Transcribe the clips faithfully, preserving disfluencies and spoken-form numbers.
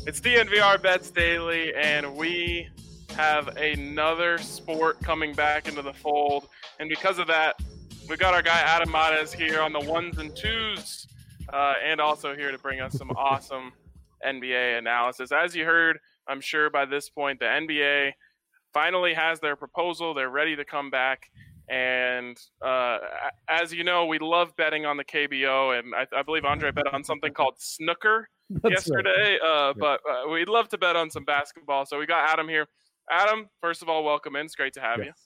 It's D N V R Bets Daily, and we have another sport coming back into the fold. And because of that, we've got our guy Adam Mares here on the ones and twos, uh, and also here to bring us some awesome N B A analysis. As you heard, I'm sure by this point, the N B A finally has their proposal. They're ready to come back. And uh, as you know, we love betting on the K B O, and I, I believe Andre bet on something called snooker yesterday. Right. Uh, but uh, we'd love to bet on some basketball. So we got Adam here. Adam, first of all, welcome in. It's great to have yes.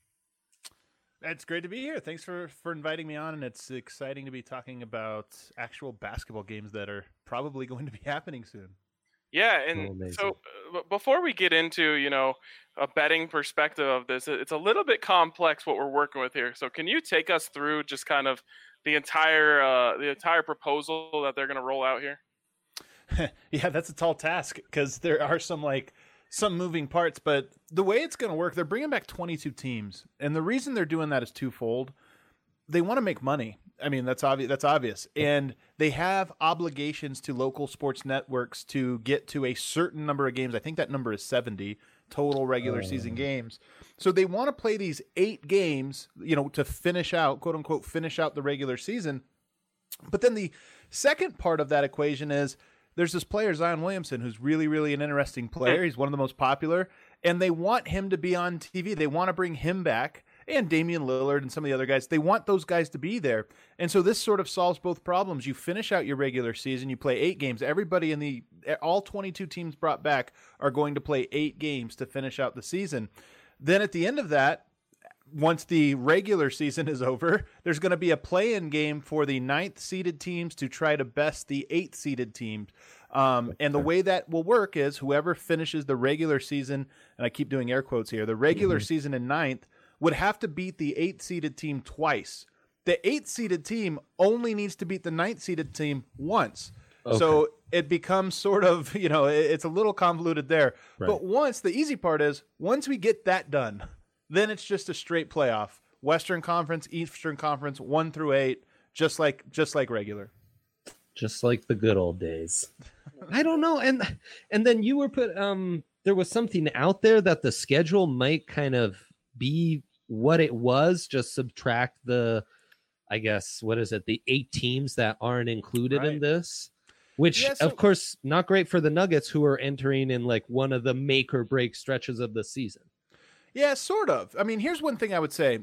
you. It's great to be here. Thanks for, for inviting me on, and it's exciting to be talking about actual basketball games that are probably going to be happening soon. Yeah, and so uh, before we get into, you know, a betting perspective of this, it's a little bit complex what we're working with here. So can you take us through just kind of the entire uh, the entire proposal that they're going to roll out here? Yeah, that's a tall task because there are some like some moving parts, but the way it's going to work, they're bringing back twenty-two teams, and the reason they're doing that is twofold. They want to make money. I mean, that's obvious. That's obvious. And they have obligations to local sports networks to get to a certain number of games. I think that number is seventy total regular uh. season games. So they want to play these eight games, you know, to finish out, quote unquote, finish out the regular season. But then the second part of that equation is there's this player, Zion Williamson, who's really, really an interesting player. He's one of the most popular, and they want him to be on T V. They want to bring him back. And Damian Lillard and some of the other guys, they want those guys to be there. And so this sort of solves both problems. You finish out your regular season, you play eight games. Everybody in the, all twenty-two teams brought back are going to play eight games to finish out the season. Then at the end of that, once the regular season is over, there's going to be a play-in game for the ninth seeded teams to try to best the eighth seeded teams. Um, and the way that will work is whoever finishes the regular season, and I keep doing air quotes here, the regular mm-hmm. season in ninth, would have to beat the eighth-seeded team twice. The eighth-seeded team only needs to beat the ninth-seeded team once. Okay. So it becomes sort of, you know, it's a little convoluted there. Right. But once, the easy part is, once we get that done, then it's just a straight playoff. Western Conference, Eastern Conference, one through eight, just like just like regular. Just like the good old days. I don't know. And and then you were put, um, there was something out there that the schedule might kind of be what it was, just subtract the, I guess, what is it, the eight teams that aren't included right. in this, which yeah, so, of course not great for the Nuggets, who are entering in like one of the make or break stretches of the season. Yeah, sort of. I mean, here's one thing I would say.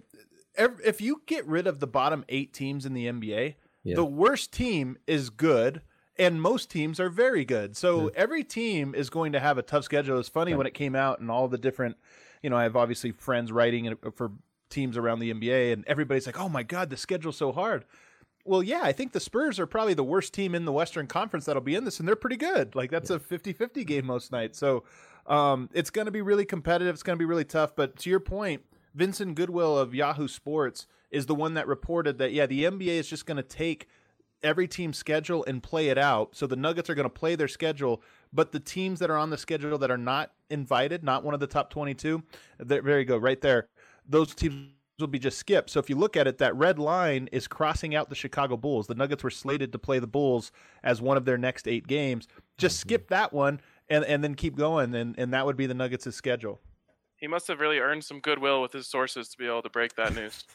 If you get rid of the bottom eight teams in the N B A, yeah. the worst team is good, and most teams are very good. So yeah. every team is going to have a tough schedule. It's funny yeah. when it came out and all the different, you know, I have obviously friends writing for teams around the N B A, and everybody's like, oh my God, the schedule's so hard. Well, yeah, I think the Spurs are probably the worst team in the Western Conference that'll be in this, and they're pretty good. Like, that's a fifty-fifty game most nights. So um, it's going to be really competitive. It's going to be really tough. But to your point, Vincent Goodwill of Yahoo Sports is the one that reported that, yeah, the N B A is just going to take every team's schedule and play it out. So the Nuggets are going to play their schedule, but the teams that are on the schedule that are not invited, not one of the top twenty-two, there you go, right there, those teams will be just skipped. So if you look at it, that red line is crossing out the Chicago Bulls. The Nuggets were slated to play the Bulls as one of their next eight games. Just mm-hmm. skip that one and, and then keep going, and, and that would be the Nuggets' schedule. He must have really earned some goodwill with his sources to be able to break that news.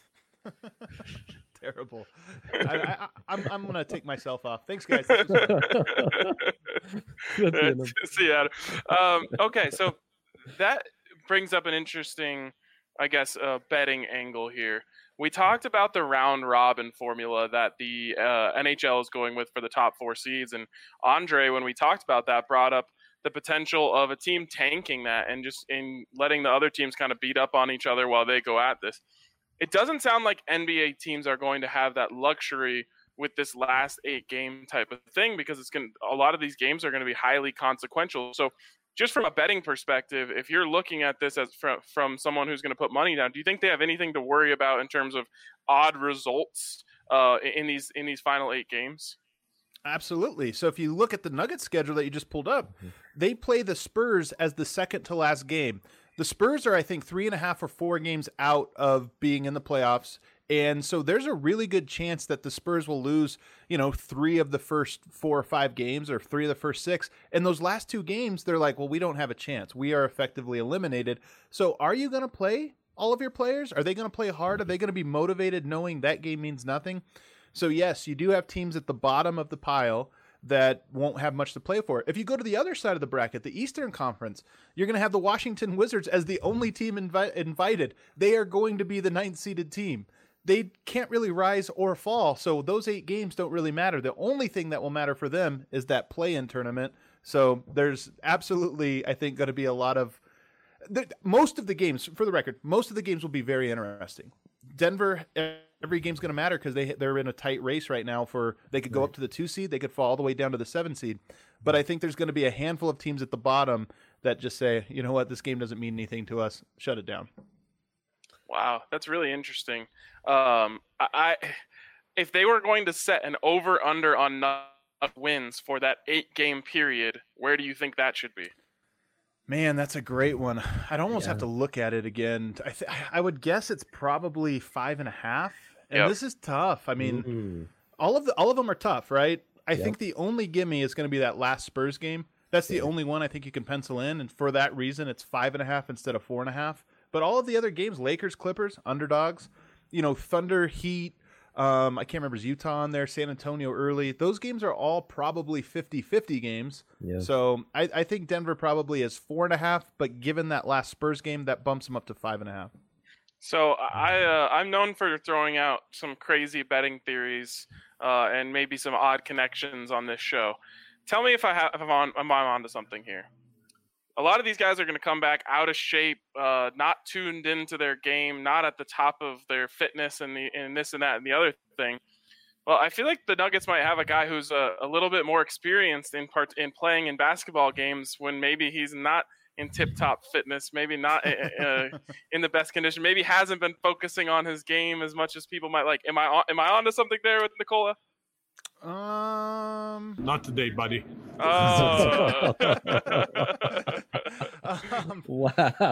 Terrible. I, I, I'm I'm gonna take myself off. Thanks, guys. See you, Adam. Um, okay, so that brings up an interesting, I guess, uh, betting angle here. We talked about the round robin formula that the uh, N H L is going with for the top four seeds, and Andre, when we talked about that, brought up the potential of a team tanking that and just in letting the other teams kind of beat up on each other while they go at this. It doesn't sound like N B A teams are going to have that luxury with this last eight game type of thing, because it's going a lot of these games are going to be highly consequential. So just from a betting perspective, if you're looking at this as from, from someone who's going to put money down, do you think they have anything to worry about in terms of odd results uh, in these in these final eight games? Absolutely. So if you look at the Nuggets schedule that you just pulled up, mm-hmm. they play the Spurs as the second to last game. The Spurs are, I think, three and a half or four games out of being in the playoffs, And so there's a really good chance that the Spurs will lose, you know, three of the first four or five games or three of the first six. And those last two games, they're like, well, we don't have a chance. We are effectively eliminated. So are you going to play all of your players? Are they going to play hard? Are they going to be motivated knowing that game means nothing? So yes, you do have teams at the bottom of the pile that won't have much to play for. If you go to the other side of the bracket, the Eastern Conference, you're going to have the Washington Wizards as the only team invi- invited. They are going to be the ninth seeded team. They can't really rise or fall, so those eight games don't really matter. The only thing that will matter for them is that play-in tournament. So there's absolutely, I think, going to be a lot of the, most of the games, for the record, most of the games will be very interesting. Denver, every game's going to matter because they they're in a tight race right now. For they could go right. up to the two seed, they could fall all the way down to the seven seed. But I think there's going to be a handful of teams at the bottom that just say, you know what, this game doesn't mean anything to us. Shut it down. Wow, that's really interesting. Um, I, I if they were going to set an over under on wins for that eight game period, where do you think that should be? Man, that's a great one. I'd almost Yeah. have to look at it again. I th- I would guess it's probably five and a half. And Yep. this is tough. I mean, Mm. all of the all of them are tough, right? I Yep. think the only gimme is going to be that last Spurs game. That's the Yeah. only one I think you can pencil in, and for that reason, it's five and a half instead of four and a half. But all of the other games, Lakers, Clippers, underdogs, you know, Thunder, Heat, um, I can't remember, is Utah on there, San Antonio early. Those games are all probably fifty-fifty games. Yeah. So I, I think Denver probably is four and a half, but given that last Spurs game, that bumps them up to five and a half. So I uh, I'm known for throwing out some crazy betting theories uh, and maybe some odd connections on this show. Tell me if I have if I'm on if I'm onto something here. A lot of these guys are going to come back out of shape, uh, not tuned into their game, not at the top of their fitness, and the and this and that and the other thing. Well, I feel like the Nuggets might have a guy who's a, a little bit more experienced in part in playing in basketball games when maybe he's not in tip-top fitness, maybe not uh, in the best condition, maybe hasn't been focusing on his game as much as people might like. Am I on, am I onto something there with Nikola? Um, Not today, buddy. Oh. um, Wow.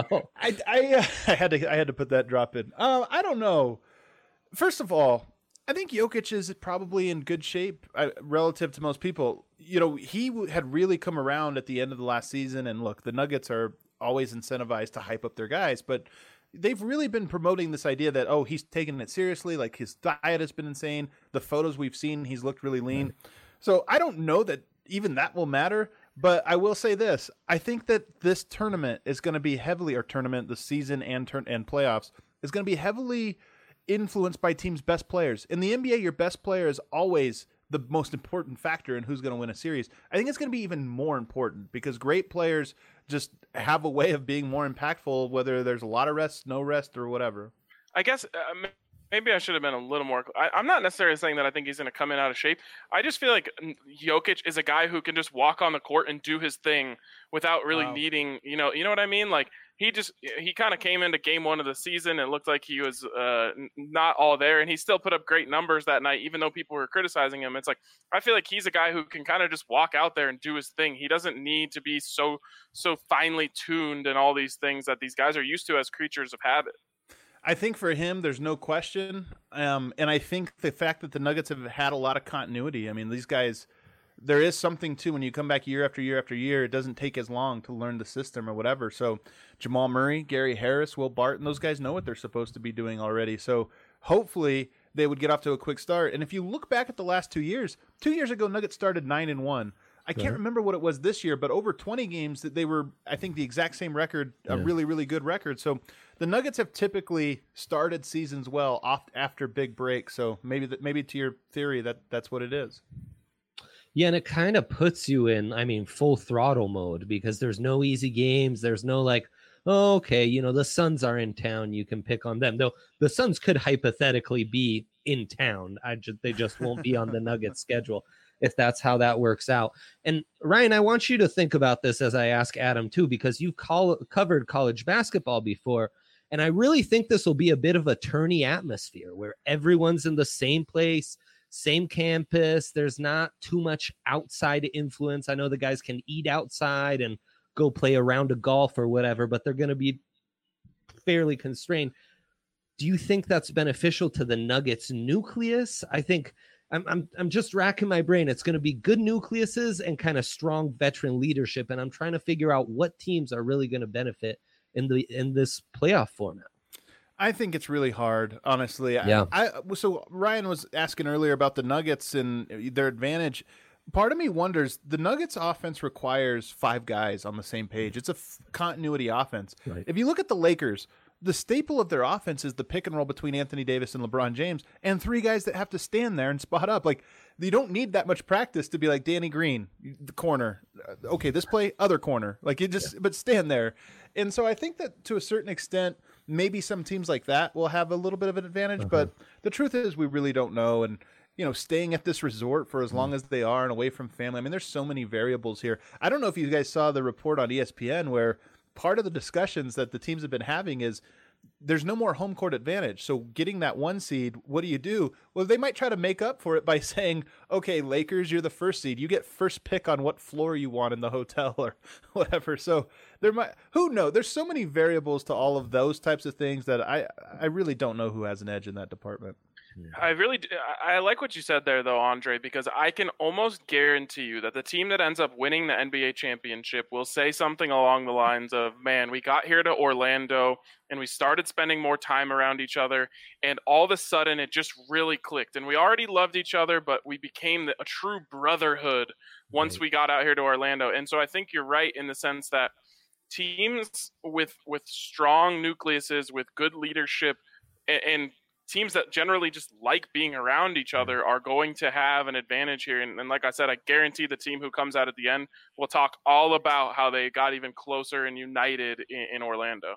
I, I, uh, I had to I had to put that drop in. Uh, I don't know. First of all, I think Jokic is probably in good shape uh, relative to most people. You know, he w- had really come around at the end of the last season, and look, the Nuggets are always incentivized to hype up their guys, but they've really been promoting this idea that, oh, he's taking it seriously. Like, his diet has been insane. The photos we've seen, he's looked really lean. So I don't know that even that will matter, but I will say this. I think that this tournament is going to be heavily, or tournament, the season and turn and playoffs, is going to be heavily influenced by teams' best players. In the N B A, your best player is always the most important factor in who's going to win a series. I think it's going to be even more important because great players just have a way of being more impactful, whether there's a lot of rest, no rest, or whatever. I guess uh, maybe I should have been a little more. I, I'm not necessarily saying that I think he's going to come in out of shape. I just feel like Jokic is a guy who can just walk on the court and do his thing without really Wow. needing, you know, you know what I mean? Like he just he kind of came into game one of the season and looked like he was uh, not all there, and he still put up great numbers that night, even though people were criticizing him. It's like I feel like he's a guy who can kind of just walk out there and do his thing. He doesn't need to be so so finely tuned and all these things that these guys are used to as creatures of habit. I think for him, there's no question. Um, and I think the fact that the Nuggets have had a lot of continuity. I mean, these guys, there is something too when you come back year after year after year. It doesn't take as long to learn the system or whatever. So Jamal Murray, Gary Harris, Will Barton, those guys know what they're supposed to be doing already. So hopefully they would get off to a quick start. And if you look back at the last two years, two years ago, Nuggets started nine and one. I can't Right. remember what it was this year, but over twenty games that they were, I think, the exact same record, a Yeah. really, really good record. So the Nuggets have typically started seasons well off after big breaks. So maybe that, maybe to your theory that that's what it is. Yeah, and it kind of puts you in, I mean, full throttle mode because there's no easy games. There's no like, oh, okay, you know, the Suns are in town. You can pick on them. Though the Suns could hypothetically be in town. I just they just won't be on the Nuggets schedule if that's how that works out. And Ryan, I want you to think about this as I ask Adam too, because you've call, covered college basketball before. And I really think this will be a bit of a tourney atmosphere where everyone's in the same place, same campus. There's not too much outside influence. I know the guys can eat outside and go play a round of golf or whatever, but they're going to be fairly constrained. do you think that's beneficial to the Nuggets nucleus? I think I'm I'm I'm just racking my brain. It's going to be good nucleuses and kind of strong veteran leadership, and I'm trying to figure out what teams are really going to benefit in the in this playoff format. I think it's really hard, honestly. Yeah. I, I so Ryan was asking earlier about the Nuggets and their advantage. Part of me wonders, the Nuggets offense requires five guys on the same page. It's a f- continuity offense. Right. If you look at the Lakers, the staple of their offense is the pick and roll between Anthony Davis and LeBron James, and three guys that have to stand there and spot up. Like, you don't need that much practice to be like Danny Green, the corner. Okay, this play, other corner. Like, you just, yeah. but stand there. And so I think that to a certain extent, maybe some teams like that will have a little bit of an advantage, uh-huh. but the truth is we really don't know. And, you know, staying at this resort for as long as they are and away from family, I mean, there's so many variables here. I don't know if you guys saw the report on E S P N where part of the discussions that the teams have been having is there's no more home court advantage. So getting that one seed, what do you do? Well, they might try to make up for it by saying, okay, Lakers, you're the first seed. You get first pick on what floor you want in the hotel or whatever. So there might, who knows? There's so many variables to all of those types of things that I, I really don't know who has an edge in that department. I really do. I like what you said there, though, Andre, because I can almost guarantee you that the team that ends up winning the N B A championship will say something along the lines of, man, we got here to Orlando and we started spending more time around each other, and all of a sudden it just really clicked. And we already loved each other, but we became a true brotherhood once right. we got out here to Orlando. And so I think you're right in the sense that teams with with strong nucleuses, with good leadership, and, and teams that generally just like being around each other are going to have an advantage here. And, and like I said, I guarantee the team who comes out at the end will talk all about how they got even closer and united in, in Orlando.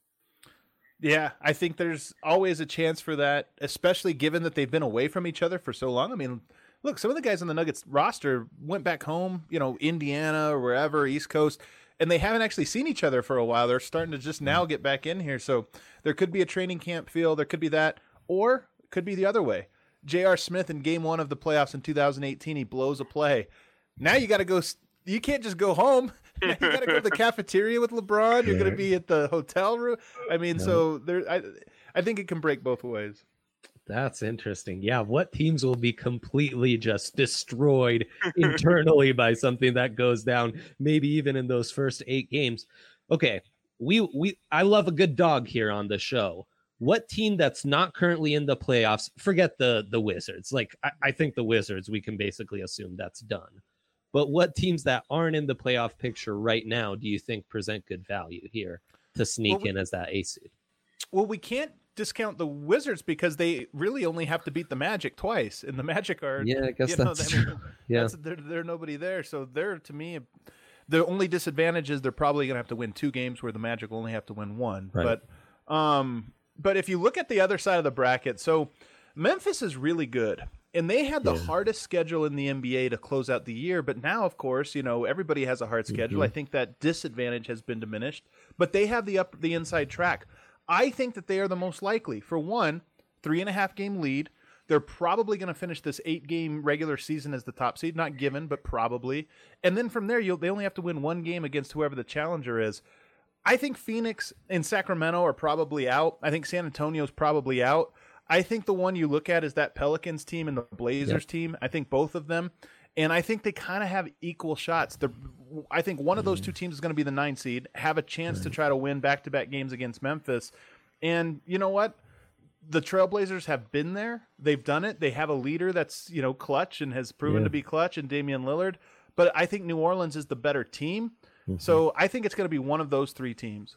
Yeah, I think there's always a chance for that, especially given that they've been away from each other for so long. I mean, look, some of the guys on the Nuggets roster went back home, you know, Indiana or wherever, East Coast, and they haven't actually seen each other for a while. They're starting to just now get back in here. So there could be a training camp feel. There could be that. Or it could be the other way. J R. Smith in game one of the playoffs in two thousand eighteen, he blows a play. Now you got to go. You can't just go home. You got to go to the cafeteria with LeBron. You're going to be at the hotel room. I mean, yeah. so there. I, I think it can break both ways. That's interesting. Yeah, what teams will be completely just destroyed internally by something that goes down, maybe even in those first eight games. Okay, we we I love a good dog here on the show. What team that's not currently in the playoffs, forget the the Wizards. Like, I, I think the Wizards, we can basically assume that's done. But what teams that aren't in the playoff picture right now do you think present good value here to sneak well, we, in as that A seed? Well, we can't discount the Wizards because they really only have to beat the Magic twice. And the Magic are... Yeah, I guess that's know, I mean, true. Yeah. That's, they're, they're nobody there. So they're, to me, the only disadvantage is they're probably going to have to win two games where the Magic only have to win one. Right. But... um. But if you look at the other side of the bracket, so Memphis is really good. And they had the yeah. hardest schedule in the N B A to close out the year. But now, of course, you know, everybody has a hard schedule. Mm-hmm. I think that disadvantage has been diminished. But they have the up the inside track. I think that they are the most likely. For one, three and a half game lead. They're probably going to finish this eight game regular season as the top seed. Not given, but probably. And then from there, you'll, they only have to win one game against whoever the challenger is. I think Phoenix and Sacramento are probably out. I think San Antonio's probably out. I think the one you look at is that Pelicans team and the Blazers yep. team. I think both of them. And I think they kind of have equal shots. They're, I think one of those two teams is going to be the nine seed, have a chance right. to try to win back-to-back games against Memphis. And you know what? The Trailblazers have been there. They've done it. They have a leader that's, you know, clutch and has proven yeah. to be clutch in Damian Lillard. But I think New Orleans is the better team. So I think it's going to be one of those three teams.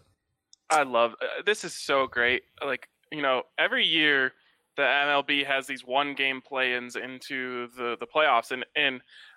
I love uh, this is so great. Like, you know, every year the M L B has these one game play-ins into the, the playoffs. And, and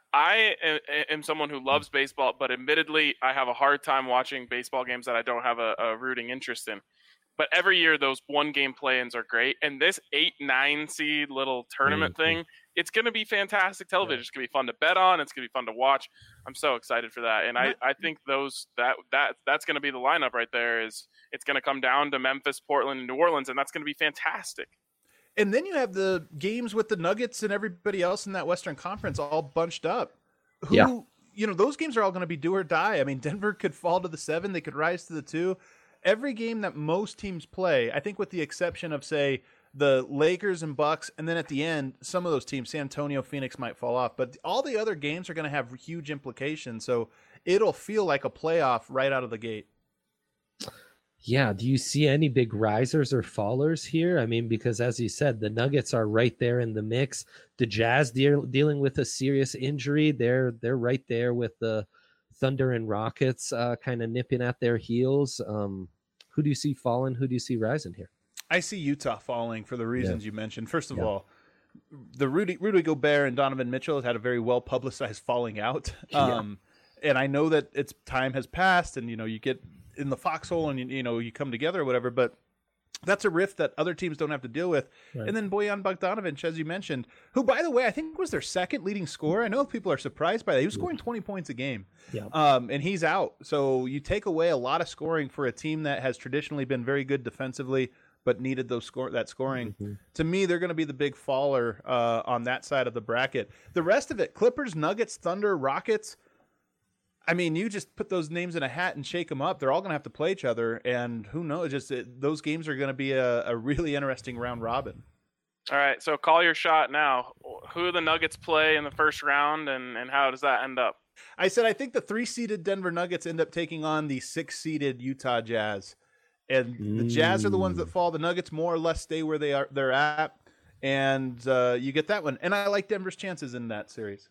I am, am someone who loves baseball, but admittedly I have a hard time watching baseball games that I don't have a, a rooting interest in. But every year those one game play-ins are great. And this eight, nine seed little tournament mm-hmm. thing, it's going to be fantastic television. Yeah. It's going to be fun to bet on. It's going to be fun to watch. I'm so excited for that. And I, I think those that that that's going to be the lineup right there. Is it's going to come down to Memphis, Portland, and New Orleans, and that's going to be fantastic. And then you have the games with the Nuggets and everybody else in that Western Conference all bunched up. Who, yeah. you know, those games are all going to be do or die. I mean, Denver could fall to the seven. They could rise to the two. every game that most teams play, I think with the exception of, say, the Lakers and Bucks, and then at the end, some of those teams, San Antonio, Phoenix might fall off. But all the other games are going to have huge implications. So it'll feel like a playoff right out of the gate. Yeah. Do you see any big risers or fallers here? I mean, because as you said, the Nuggets are right there in the mix. The Jazz deal, dealing with a serious injury. They're they're right there with the Thunder and Rockets uh, kind of nipping at their heels. Um, who do you see falling? Who do you see rising here? I see Utah falling for the reasons yeah. you mentioned. First of yeah. all, the Rudy Rudy Gobert and Donovan Mitchell has had a very well publicized falling out. Um, yeah. And I know that it's time has passed, and you know you get in the foxhole, and you, you know you come together or whatever. But that's a rift that other teams don't have to deal with. Right. And then Bojan Bogdanovic, as you mentioned, who, by the way, I think was their second leading scorer. I know people are surprised by that. He was scoring twenty points a game, yeah. um, and he's out. So you take away a lot of scoring for a team that has traditionally been very good defensively, but needed those score that scoring. Mm-hmm. To me, they're going to be the big faller uh, on that side of the bracket. The rest of it, Clippers, Nuggets, Thunder, Rockets. I mean, you just put those names in a hat and shake them up. They're all going to have to play each other, and who knows? Just it, those games are going to be a, a really interesting round robin. All right, so call your shot now. Who do the Nuggets play in the first round, and, and how does that end up? I said I think the three-seeded Denver Nuggets end up taking on the six-seeded Utah Jazz. And the Jazz are the ones that fall. The Nuggets more or less stay where they are. They're at, and uh, you get that one. And I like Denver's chances in that series.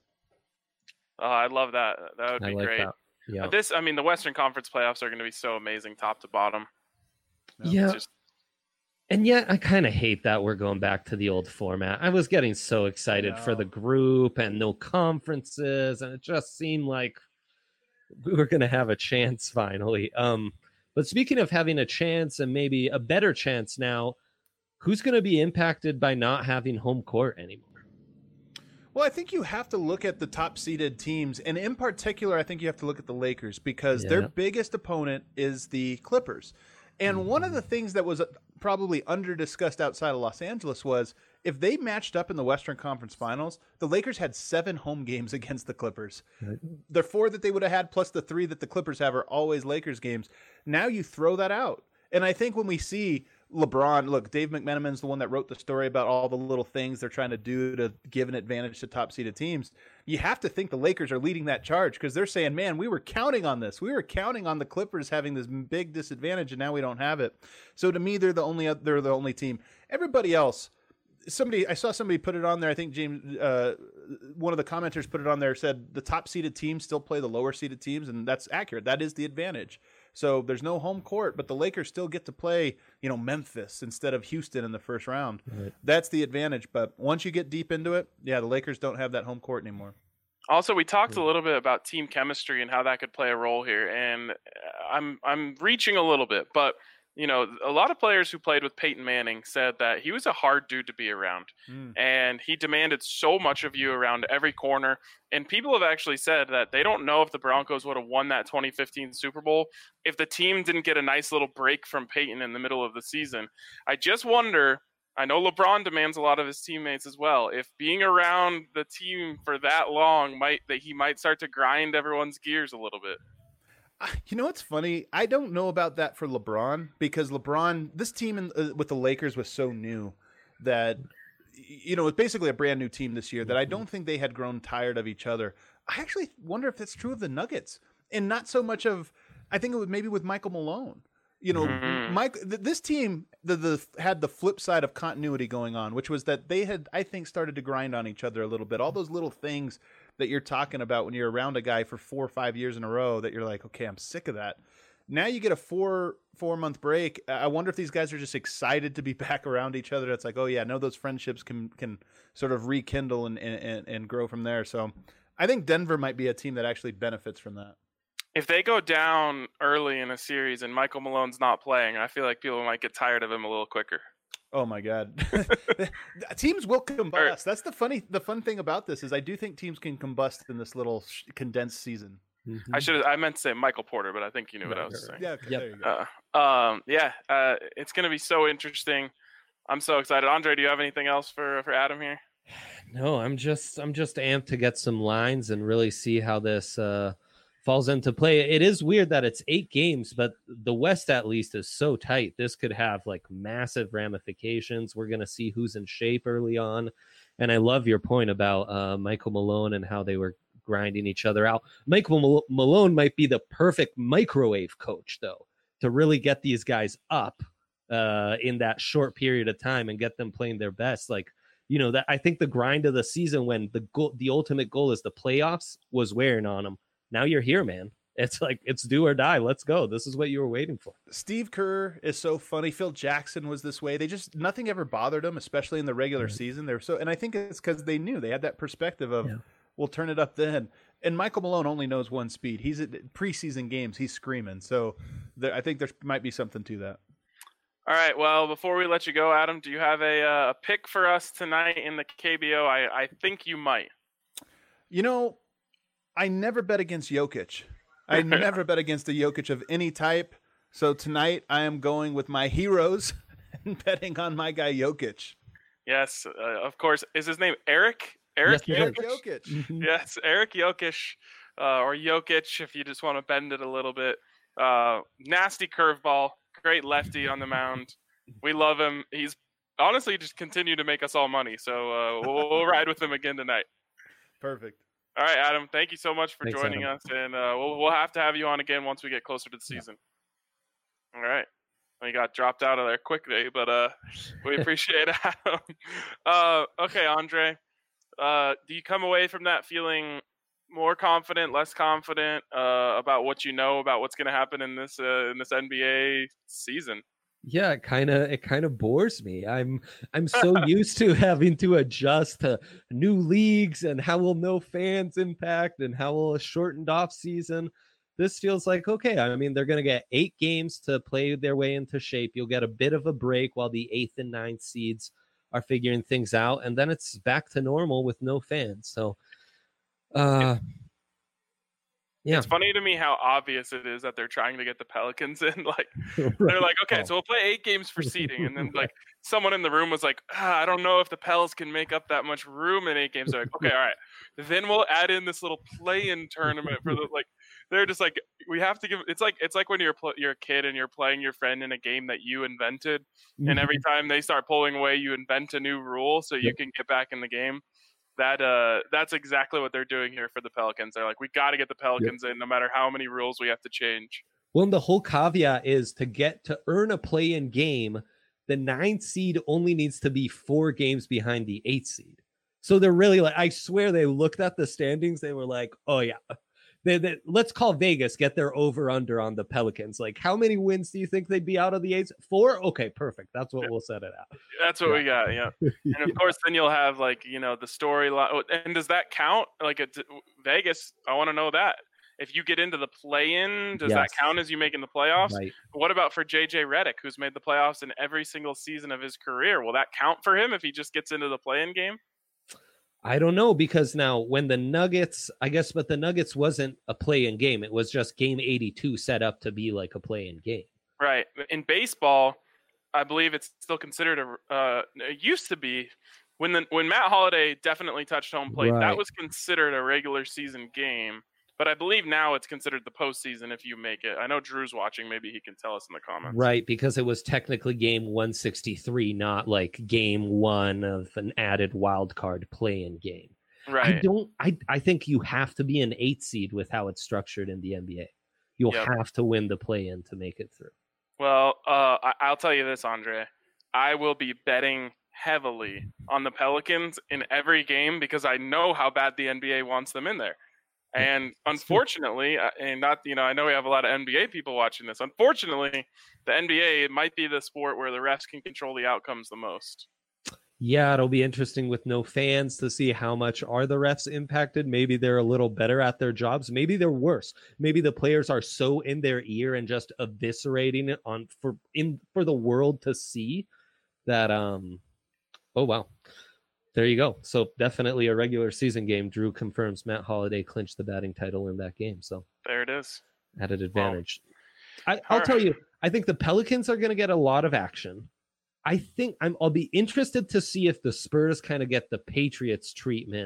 Oh, I love that. That would be I like great. That. Yeah. This, I mean, the Western Conference playoffs are going to be so amazing, top to bottom. Yeah. Just... And yet, I kind of hate that we're going back to the old format. I was getting so excited for the group and no conferences, and it just seemed like we were going to have a chance finally. Um. But speaking of having a chance and maybe a better chance now, who's going to be impacted by not having home court anymore? Well, I think you have to look at the top-seeded teams, and in particular, I think you have to look at the Lakers because yeah. their biggest opponent is the Clippers. And mm-hmm. one of the things that was probably under-discussed outside of Los Angeles was if they matched up in the Western Conference Finals, the Lakers had seven home games against the Clippers. Right. The four that they would have had plus the three that the Clippers have are always Lakers games. Now you throw that out. And I think when we see LeBron, look, Dave McMenamin's the one that wrote the story about all the little things they're trying to do to give an advantage to top-seeded teams. You have to think the Lakers are leading that charge because they're saying, man, we were counting on this. We were counting on the Clippers having this big disadvantage, and now we don't have it. So to me, they're the only they're the only team. Everybody else, somebody I saw somebody put it on there. I think James, uh, one of the commenters put it on there, said the top-seeded teams still play the lower-seeded teams, and that's accurate. That is the advantage. So there's no home court, but the Lakers still get to play, you know, Memphis instead of Houston in the first round. Right. That's the advantage. But once you get deep into it, yeah, the Lakers don't have that home court anymore. Also, we talked a little bit about team chemistry and how that could play a role here. And I'm I'm reaching a little bit, but you know, a lot of players who played with Peyton Manning said that he was a hard dude to be around, mm. and he demanded so much of you around every corner. And people have actually said that they don't know if the Broncos would have won that twenty fifteen Super Bowl if the team didn't get a nice little break from Peyton in the middle of the season. I just wonder, I know LeBron demands a lot of his teammates as well, if being around the team for that long might that he might start to grind everyone's gears a little bit. You know what's funny? I don't know about that for LeBron because LeBron, this team in, uh, with the Lakers was so new that, you know, it's basically a brand new team this year that I don't think they had grown tired of each other. I actually wonder if that's true of the Nuggets and not so much of, I think it was maybe with Michael Malone. You know, mm-hmm. Mike, th- this team the, the had the flip side of continuity going on, which was that they had, I think, started to grind on each other a little bit. All those little things that you're talking about when you're around a guy for four or five years in a row that you're like, okay, I'm sick of that. Now you get a four four month break. I wonder if these guys are just excited to be back around each other. It's like, oh yeah, I know those friendships can can sort of rekindle and and, and grow from there. So I think Denver might be a team that actually benefits from that. If they go down early in a series and Michael Malone's not playing, I feel like people might get tired of him a little quicker. Oh my God. Teams will combust. That's the funny, the fun thing about this is I do think teams can combust in this little sh- condensed season. Mm-hmm. I should I meant to say Michael Porter, but I think you knew what right, I was saying. Yeah, okay, yep. there you go. Uh, um, yeah, uh, it's going to be so interesting. I'm so excited. Andre, do you have anything else for, for Adam here? No, I'm just I'm just amped to get some lines and really see how this uh, falls into play. It is weird that it's eight games, but the West at least is so tight. This could have like massive ramifications. We're going to see who's in shape early on. And I love your point about uh, Michael Malone and how they were grinding each other out. Michael Mal- Malone might be the perfect microwave coach, though, to really get these guys up uh, in that short period of time and get them playing their best. Like, you know, that I think the grind of the season when the goal, the ultimate goal is the playoffs was wearing on them. Now you're here, man. It's like, it's do or die. Let's go. This is what you were waiting for. Steve Kerr is so funny. Phil Jackson was this way. They just, nothing ever bothered them, especially in the regular right. season. They're so, and I think it's because they knew they had that perspective of, yeah. we'll turn it up then. And Michael Malone only knows one speed. He's at preseason games. He's screaming. So there, I think there might be something to that. All right. Well, before we let you go, Adam, do you have a, uh, a pick for us tonight in the K B O? I, I think you might. You know, I never bet against Jokic. I never bet against a Jokic of any type. So tonight I am going with my heroes and betting on my guy Jokic. Yes, uh, of course. Is his name Eric? Eric yes, Jokic? Jokic. Mm-hmm. Yes, Eric Jokic, uh, or Jokic if you just want to bend it a little bit. Uh, nasty curveball, great lefty on the mound. We love him. He's honestly just continued to make us all money. So uh, we'll, we'll ride with him again tonight. Perfect. All right, Adam, thank you so much for Thanks, joining Adam. us, and uh, we'll, we'll have to have you on again once we get closer to the season. Yeah. All right. Well, you got dropped out of there quickly, but uh, we appreciate it, Adam. Uh, okay, Andre, uh, do you come away from that feeling more confident, less confident uh, about what you know about what's going to happen in this uh, in this N B A season? Yeah, it kind of it kind of bores me. I'm I'm so used to having to adjust to new leagues and how will no fans impact and how will a shortened off season. This feels like okay. I mean, they're going to get eight games to play their way into shape. You'll get a bit of a break while the eighth and ninth seeds are figuring things out, and then it's back to normal with no fans. So, uh, yeah. It's funny to me how obvious it is that they're trying to get the Pelicans in. Like right. They're like, okay, oh. so we'll play eight games for seeding, and then like someone in the room was like, ah, I don't know if the Pels can make up that much room in eight games. They're like, okay, all right, then we'll add in this little play-in tournament for the like. They're just like, we have to give. It's like it's like when you're pl- you're a kid and you're playing your friend in a game that you invented, mm-hmm. and every time they start pulling away, you invent a new rule so you yep. can get back in the game. That uh, that's exactly what they're doing here for the Pelicans. They're like, we got to get the Pelicans yep. in, no matter how many rules we have to change. Well, and the whole caveat is to get to earn a play-in game, the ninth seed only needs to be four games behind the eighth seed. So they're really like, I swear they looked at the standings. They were like, oh yeah, they, they, let's call Vegas, get their over-under on the Pelicans. Like, how many wins do you think they'd be out of the eighth? Four? Okay, perfect. That's what yeah. we'll set it out. That's what yeah. we got, yeah. And of yeah. course, then you'll have, like, you know, the storyline. And does that count? Like, a, Vegas, I want to know that. If you get into the play-in, does yes. that count as you making the playoffs? Right. What about for J J Redick, who's made the playoffs in every single season of his career? Will that count for him if he just gets into the play-in game? I don't know, because now when the Nuggets, I guess, but the Nuggets wasn't a play-in game. It was just game eighty-two set up to be like a play-in game. Right. In baseball, I believe it's still considered a, uh, it used to be when the, when Matt Holliday definitely touched home plate, right. that was considered a regular season game. But I believe now it's considered the postseason if you make it. I know Drew's watching. Maybe he can tell us in the comments. Right, because it was technically game one sixty-three, not like game one of an added wild card play-in game. Right. I don't. I I think you have to be an eight seed with how it's structured in the N B A. You'll yep. have to win the play-in to make it through. Well, uh, I, I'll tell you this, Andre. I will be betting heavily on the Pelicans in every game because I know how bad the N B A wants them in there. And unfortunately, and not, you know, I know we have a lot of N B A people watching this. Unfortunately, the N B A, it might be the sport where the refs can control the outcomes the most. Yeah, it'll be interesting with no fans to see how much are the refs impacted. Maybe they're a little better at their jobs. Maybe they're worse. Maybe the players are so in their ear and just eviscerating it on for in for the world to see that. Um, oh wow. There you go. So definitely a regular season game. Drew confirms Matt Holliday clinched the batting title in that game. So there it is. Added advantage. Well, I, I'll right. tell you, I think the Pelicans are going to get a lot of action. I think I'm, I'll be interested to see if the Spurs kind of get the Patriots treatment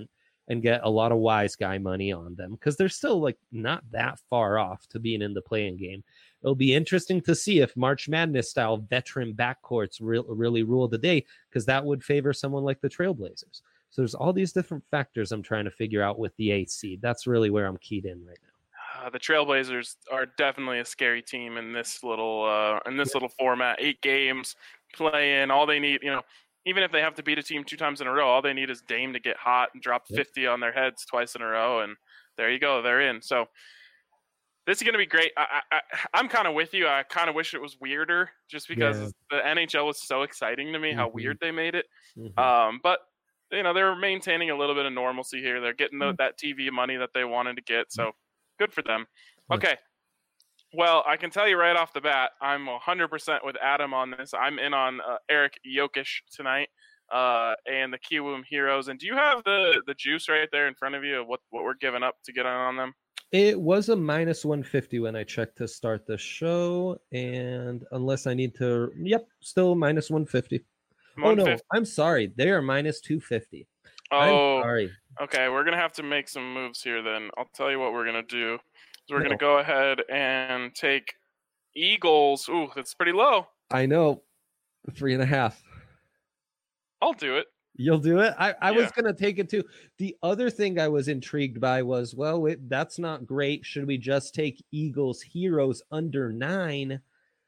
and get a lot of wise guy money on them because they're still like not that far off to being in the playing game. It'll be interesting to see if March Madness style veteran backcourts re- really rule the day, because that would favor someone like the Trailblazers. So there's all these different factors I'm trying to figure out with the eighth seed. That's really where I'm keyed in right now. Uh, the Trailblazers are definitely a scary team in this little uh, in this little format. Eight games playing, all they need, you know, even if they have to beat a team two times in a row, all they need is Dame to get hot and drop fifty on their heads twice in a row, and there you go, they're in. So this is going to be great. I, I, I'm kind of with you. I kind of wish it was weirder, just because Yeah. the N H L was so exciting to me, how Mhm. weird they made it. Mhm. Um, but you know, they're maintaining a little bit of normalcy here. They're getting the, that T V money that they wanted to get, so good for them. Yeah. Okay. Well, I can tell you right off the bat, I'm one hundred percent with Adam on this. I'm in on uh, Eric Jokic tonight uh, and the Kiwoom Heroes. And do you have the, the juice right there in front of you of what, what we're giving up to get on, on them? It was a minus one fifty when I checked to start the show, and unless I need to, yep, still minus one fifty. Oh no, I'm sorry, they are minus two fifty. Oh, I'm sorry. Okay, we're gonna have to make some moves here. Then I'll tell you what we're gonna do. So we're No. gonna go ahead and take Eagles. Ooh, that's pretty low. I know, three and a half. I'll do it. You'll do it? I, I Yeah. was going to take it too. The other thing I was intrigued by was, well, it, that's not great. Should we just take Eagles Heroes under nine?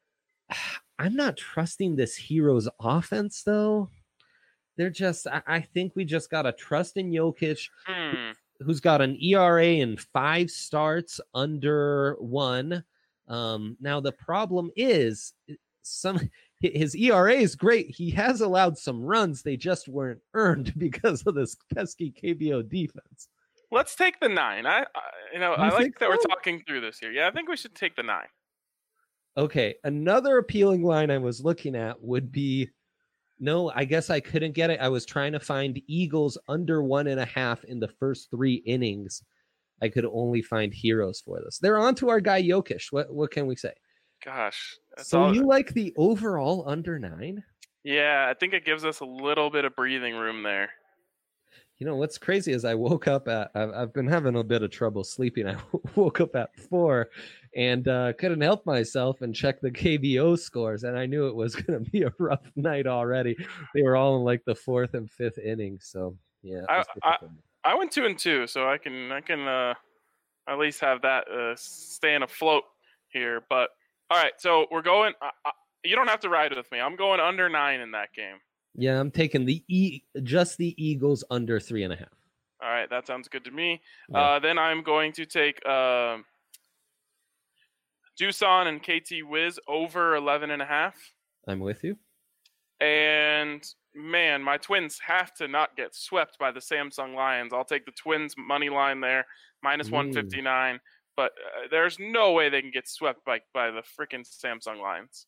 I'm not trusting this Heroes offense, though. They're just, I, I think we just got to trust in Jokic, Hmm. who's got an E R A in five starts under one. Um, now, the problem is some his E R A is great. He has allowed some runs. They just weren't earned because of this pesky K B O defense. Let's take the nine. I, I you know, You I like think that we're so? talking through this here. Yeah, I think we should take the nine. Okay, another appealing line I was looking at would be, no, I guess I couldn't get it. I was trying to find Eagles under one and a half in the first three innings. I could only find Heroes for this. They're on to our guy Jokic. What what can we say? Gosh. That's So all, you like the overall under nine? yeah, I think it gives us a little bit of breathing room there. You know, what's crazy is I woke up at, I've, I've been having a bit of trouble sleeping. I woke up at four and uh, couldn't help myself and check the K B O scores. And I knew it was going to be a rough night already. They were all in like the fourth and fifth innings. So, yeah. it I- was I- difficult. I went two and two, so I can I can uh, at least have that uh, staying afloat here. But all right, so we're going. I, I, you don't have to ride with me. I'm going under nine in that game. Yeah, I'm taking the E, just the Eagles under three and a half. All right, that sounds good to me. Yeah. Uh, then I'm going to take uh, Doosan and K T Wiz over eleven and a half. I'm with you. And man, my Twins have to not get swept by the Samsung Lions. I'll take the Twins money line there, minus Ooh. one fifty-nine. But uh, there's no way they can get swept by by the freaking Samsung Lions.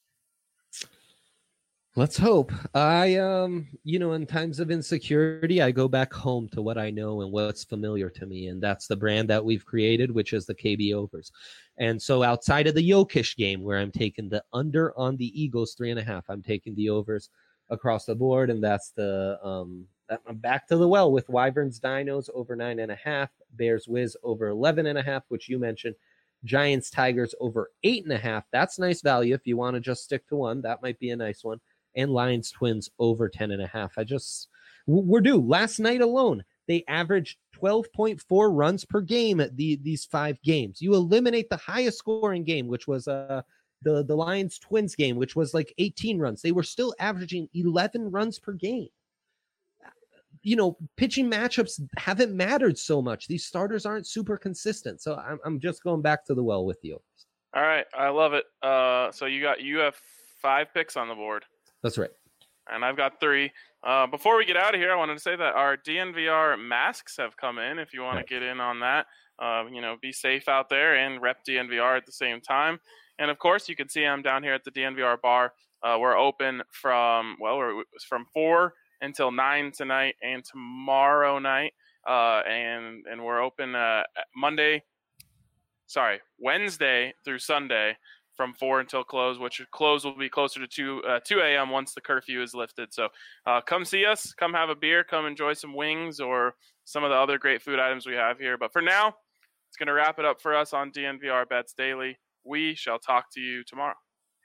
Let's hope. I, um, you know, in times of insecurity, I go back home to what I know and what's familiar to me, and that's the brand that we've created, which is the K B overs. And so, outside of the Jokic game, where I'm taking the under on the Eagles three and a half, I'm taking the overs across the board, and that's the um. I'm back to the well with Wyverns Dinos over nine and a half, Bears Wiz over eleven and a half, which you mentioned. Giants Tigers over eight and a half. That's nice value if you want to just stick to one. That might be a nice one. And Lions Twins over ten and a half. I just, we're due. Last night alone, they averaged twelve point four runs per game at the, these five games. You eliminate the highest scoring game, which was uh, the, the Lions Twins game, which was like eighteen runs. They were still averaging eleven runs per game. You know, pitching matchups haven't mattered so much. These starters aren't super consistent. So I'm, I'm just going back to the well with you. All right, I love it. Uh, so you got you have five picks on the board. That's right. And I've got three. Uh, before we get out of here, I wanted to say that our D N V R masks have come in. If you want Right. to get in on that, uh, you know, be safe out there and rep D N V R at the same time. And of course, you can see I'm down here at the D N V R bar. Uh, we're open from well, we're from four until nine tonight and tomorrow night. Uh, and and we're open uh, Monday. Sorry, Wednesday through Sunday. from four until close, which close will be closer to two uh, two a.m. once the curfew is lifted. So uh, come see us, come have a beer, come enjoy some wings or some of the other great food items we have here. But for now, it's going to wrap it up for us on D N V R Bets Daily. We shall talk to you tomorrow.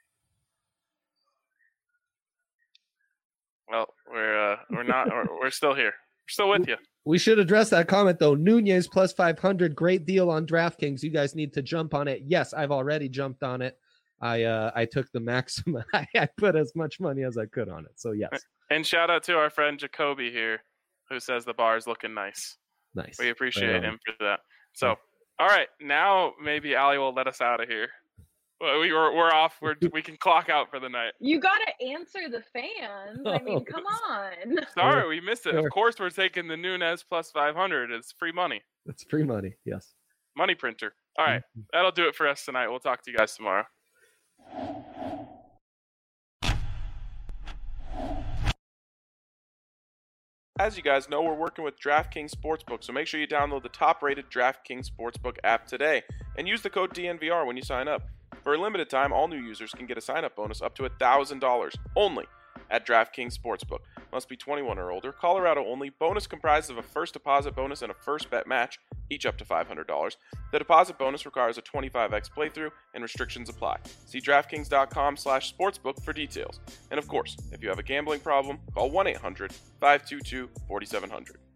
Well, we're uh, we're not we're, we're still here. We're still with you. We should address that comment though. Nunez plus five hundred, great deal on DraftKings. You guys need to jump on it. Yes, I've already jumped on it. I uh, I took the maximum. I put as much money as I could on it. So yes. And shout out to our friend Jacoby here, who says the bar is looking nice. Nice. We appreciate right him for that. So, all right, now maybe Allie will let us out of here. We we're, we're off. We're we can clock out for the night. You got to answer the fans. I mean, come on. Sorry, we missed it. Of course, we're taking the Nunez plus five hundred. It's free money. It's free money. Yes. Money printer. All right, that'll do it for us tonight. We'll talk to you guys tomorrow. As you guys know, we're working with DraftKings Sportsbook, so make sure you download the top-rated DraftKings Sportsbook app today and use the code D N V R when you sign up. For a limited time, all new users can get a sign-up bonus up to one thousand dollars only at DraftKings Sportsbook. Must be twenty-one or older. Colorado only. Bonus comprised of a first deposit bonus and a first bet match, each up to five hundred dollars. The deposit bonus requires a twenty-five x playthrough and restrictions apply. See DraftKings.com slash sportsbook for details. And of course, if you have a gambling problem, call one eight hundred five two two four seven zero zero.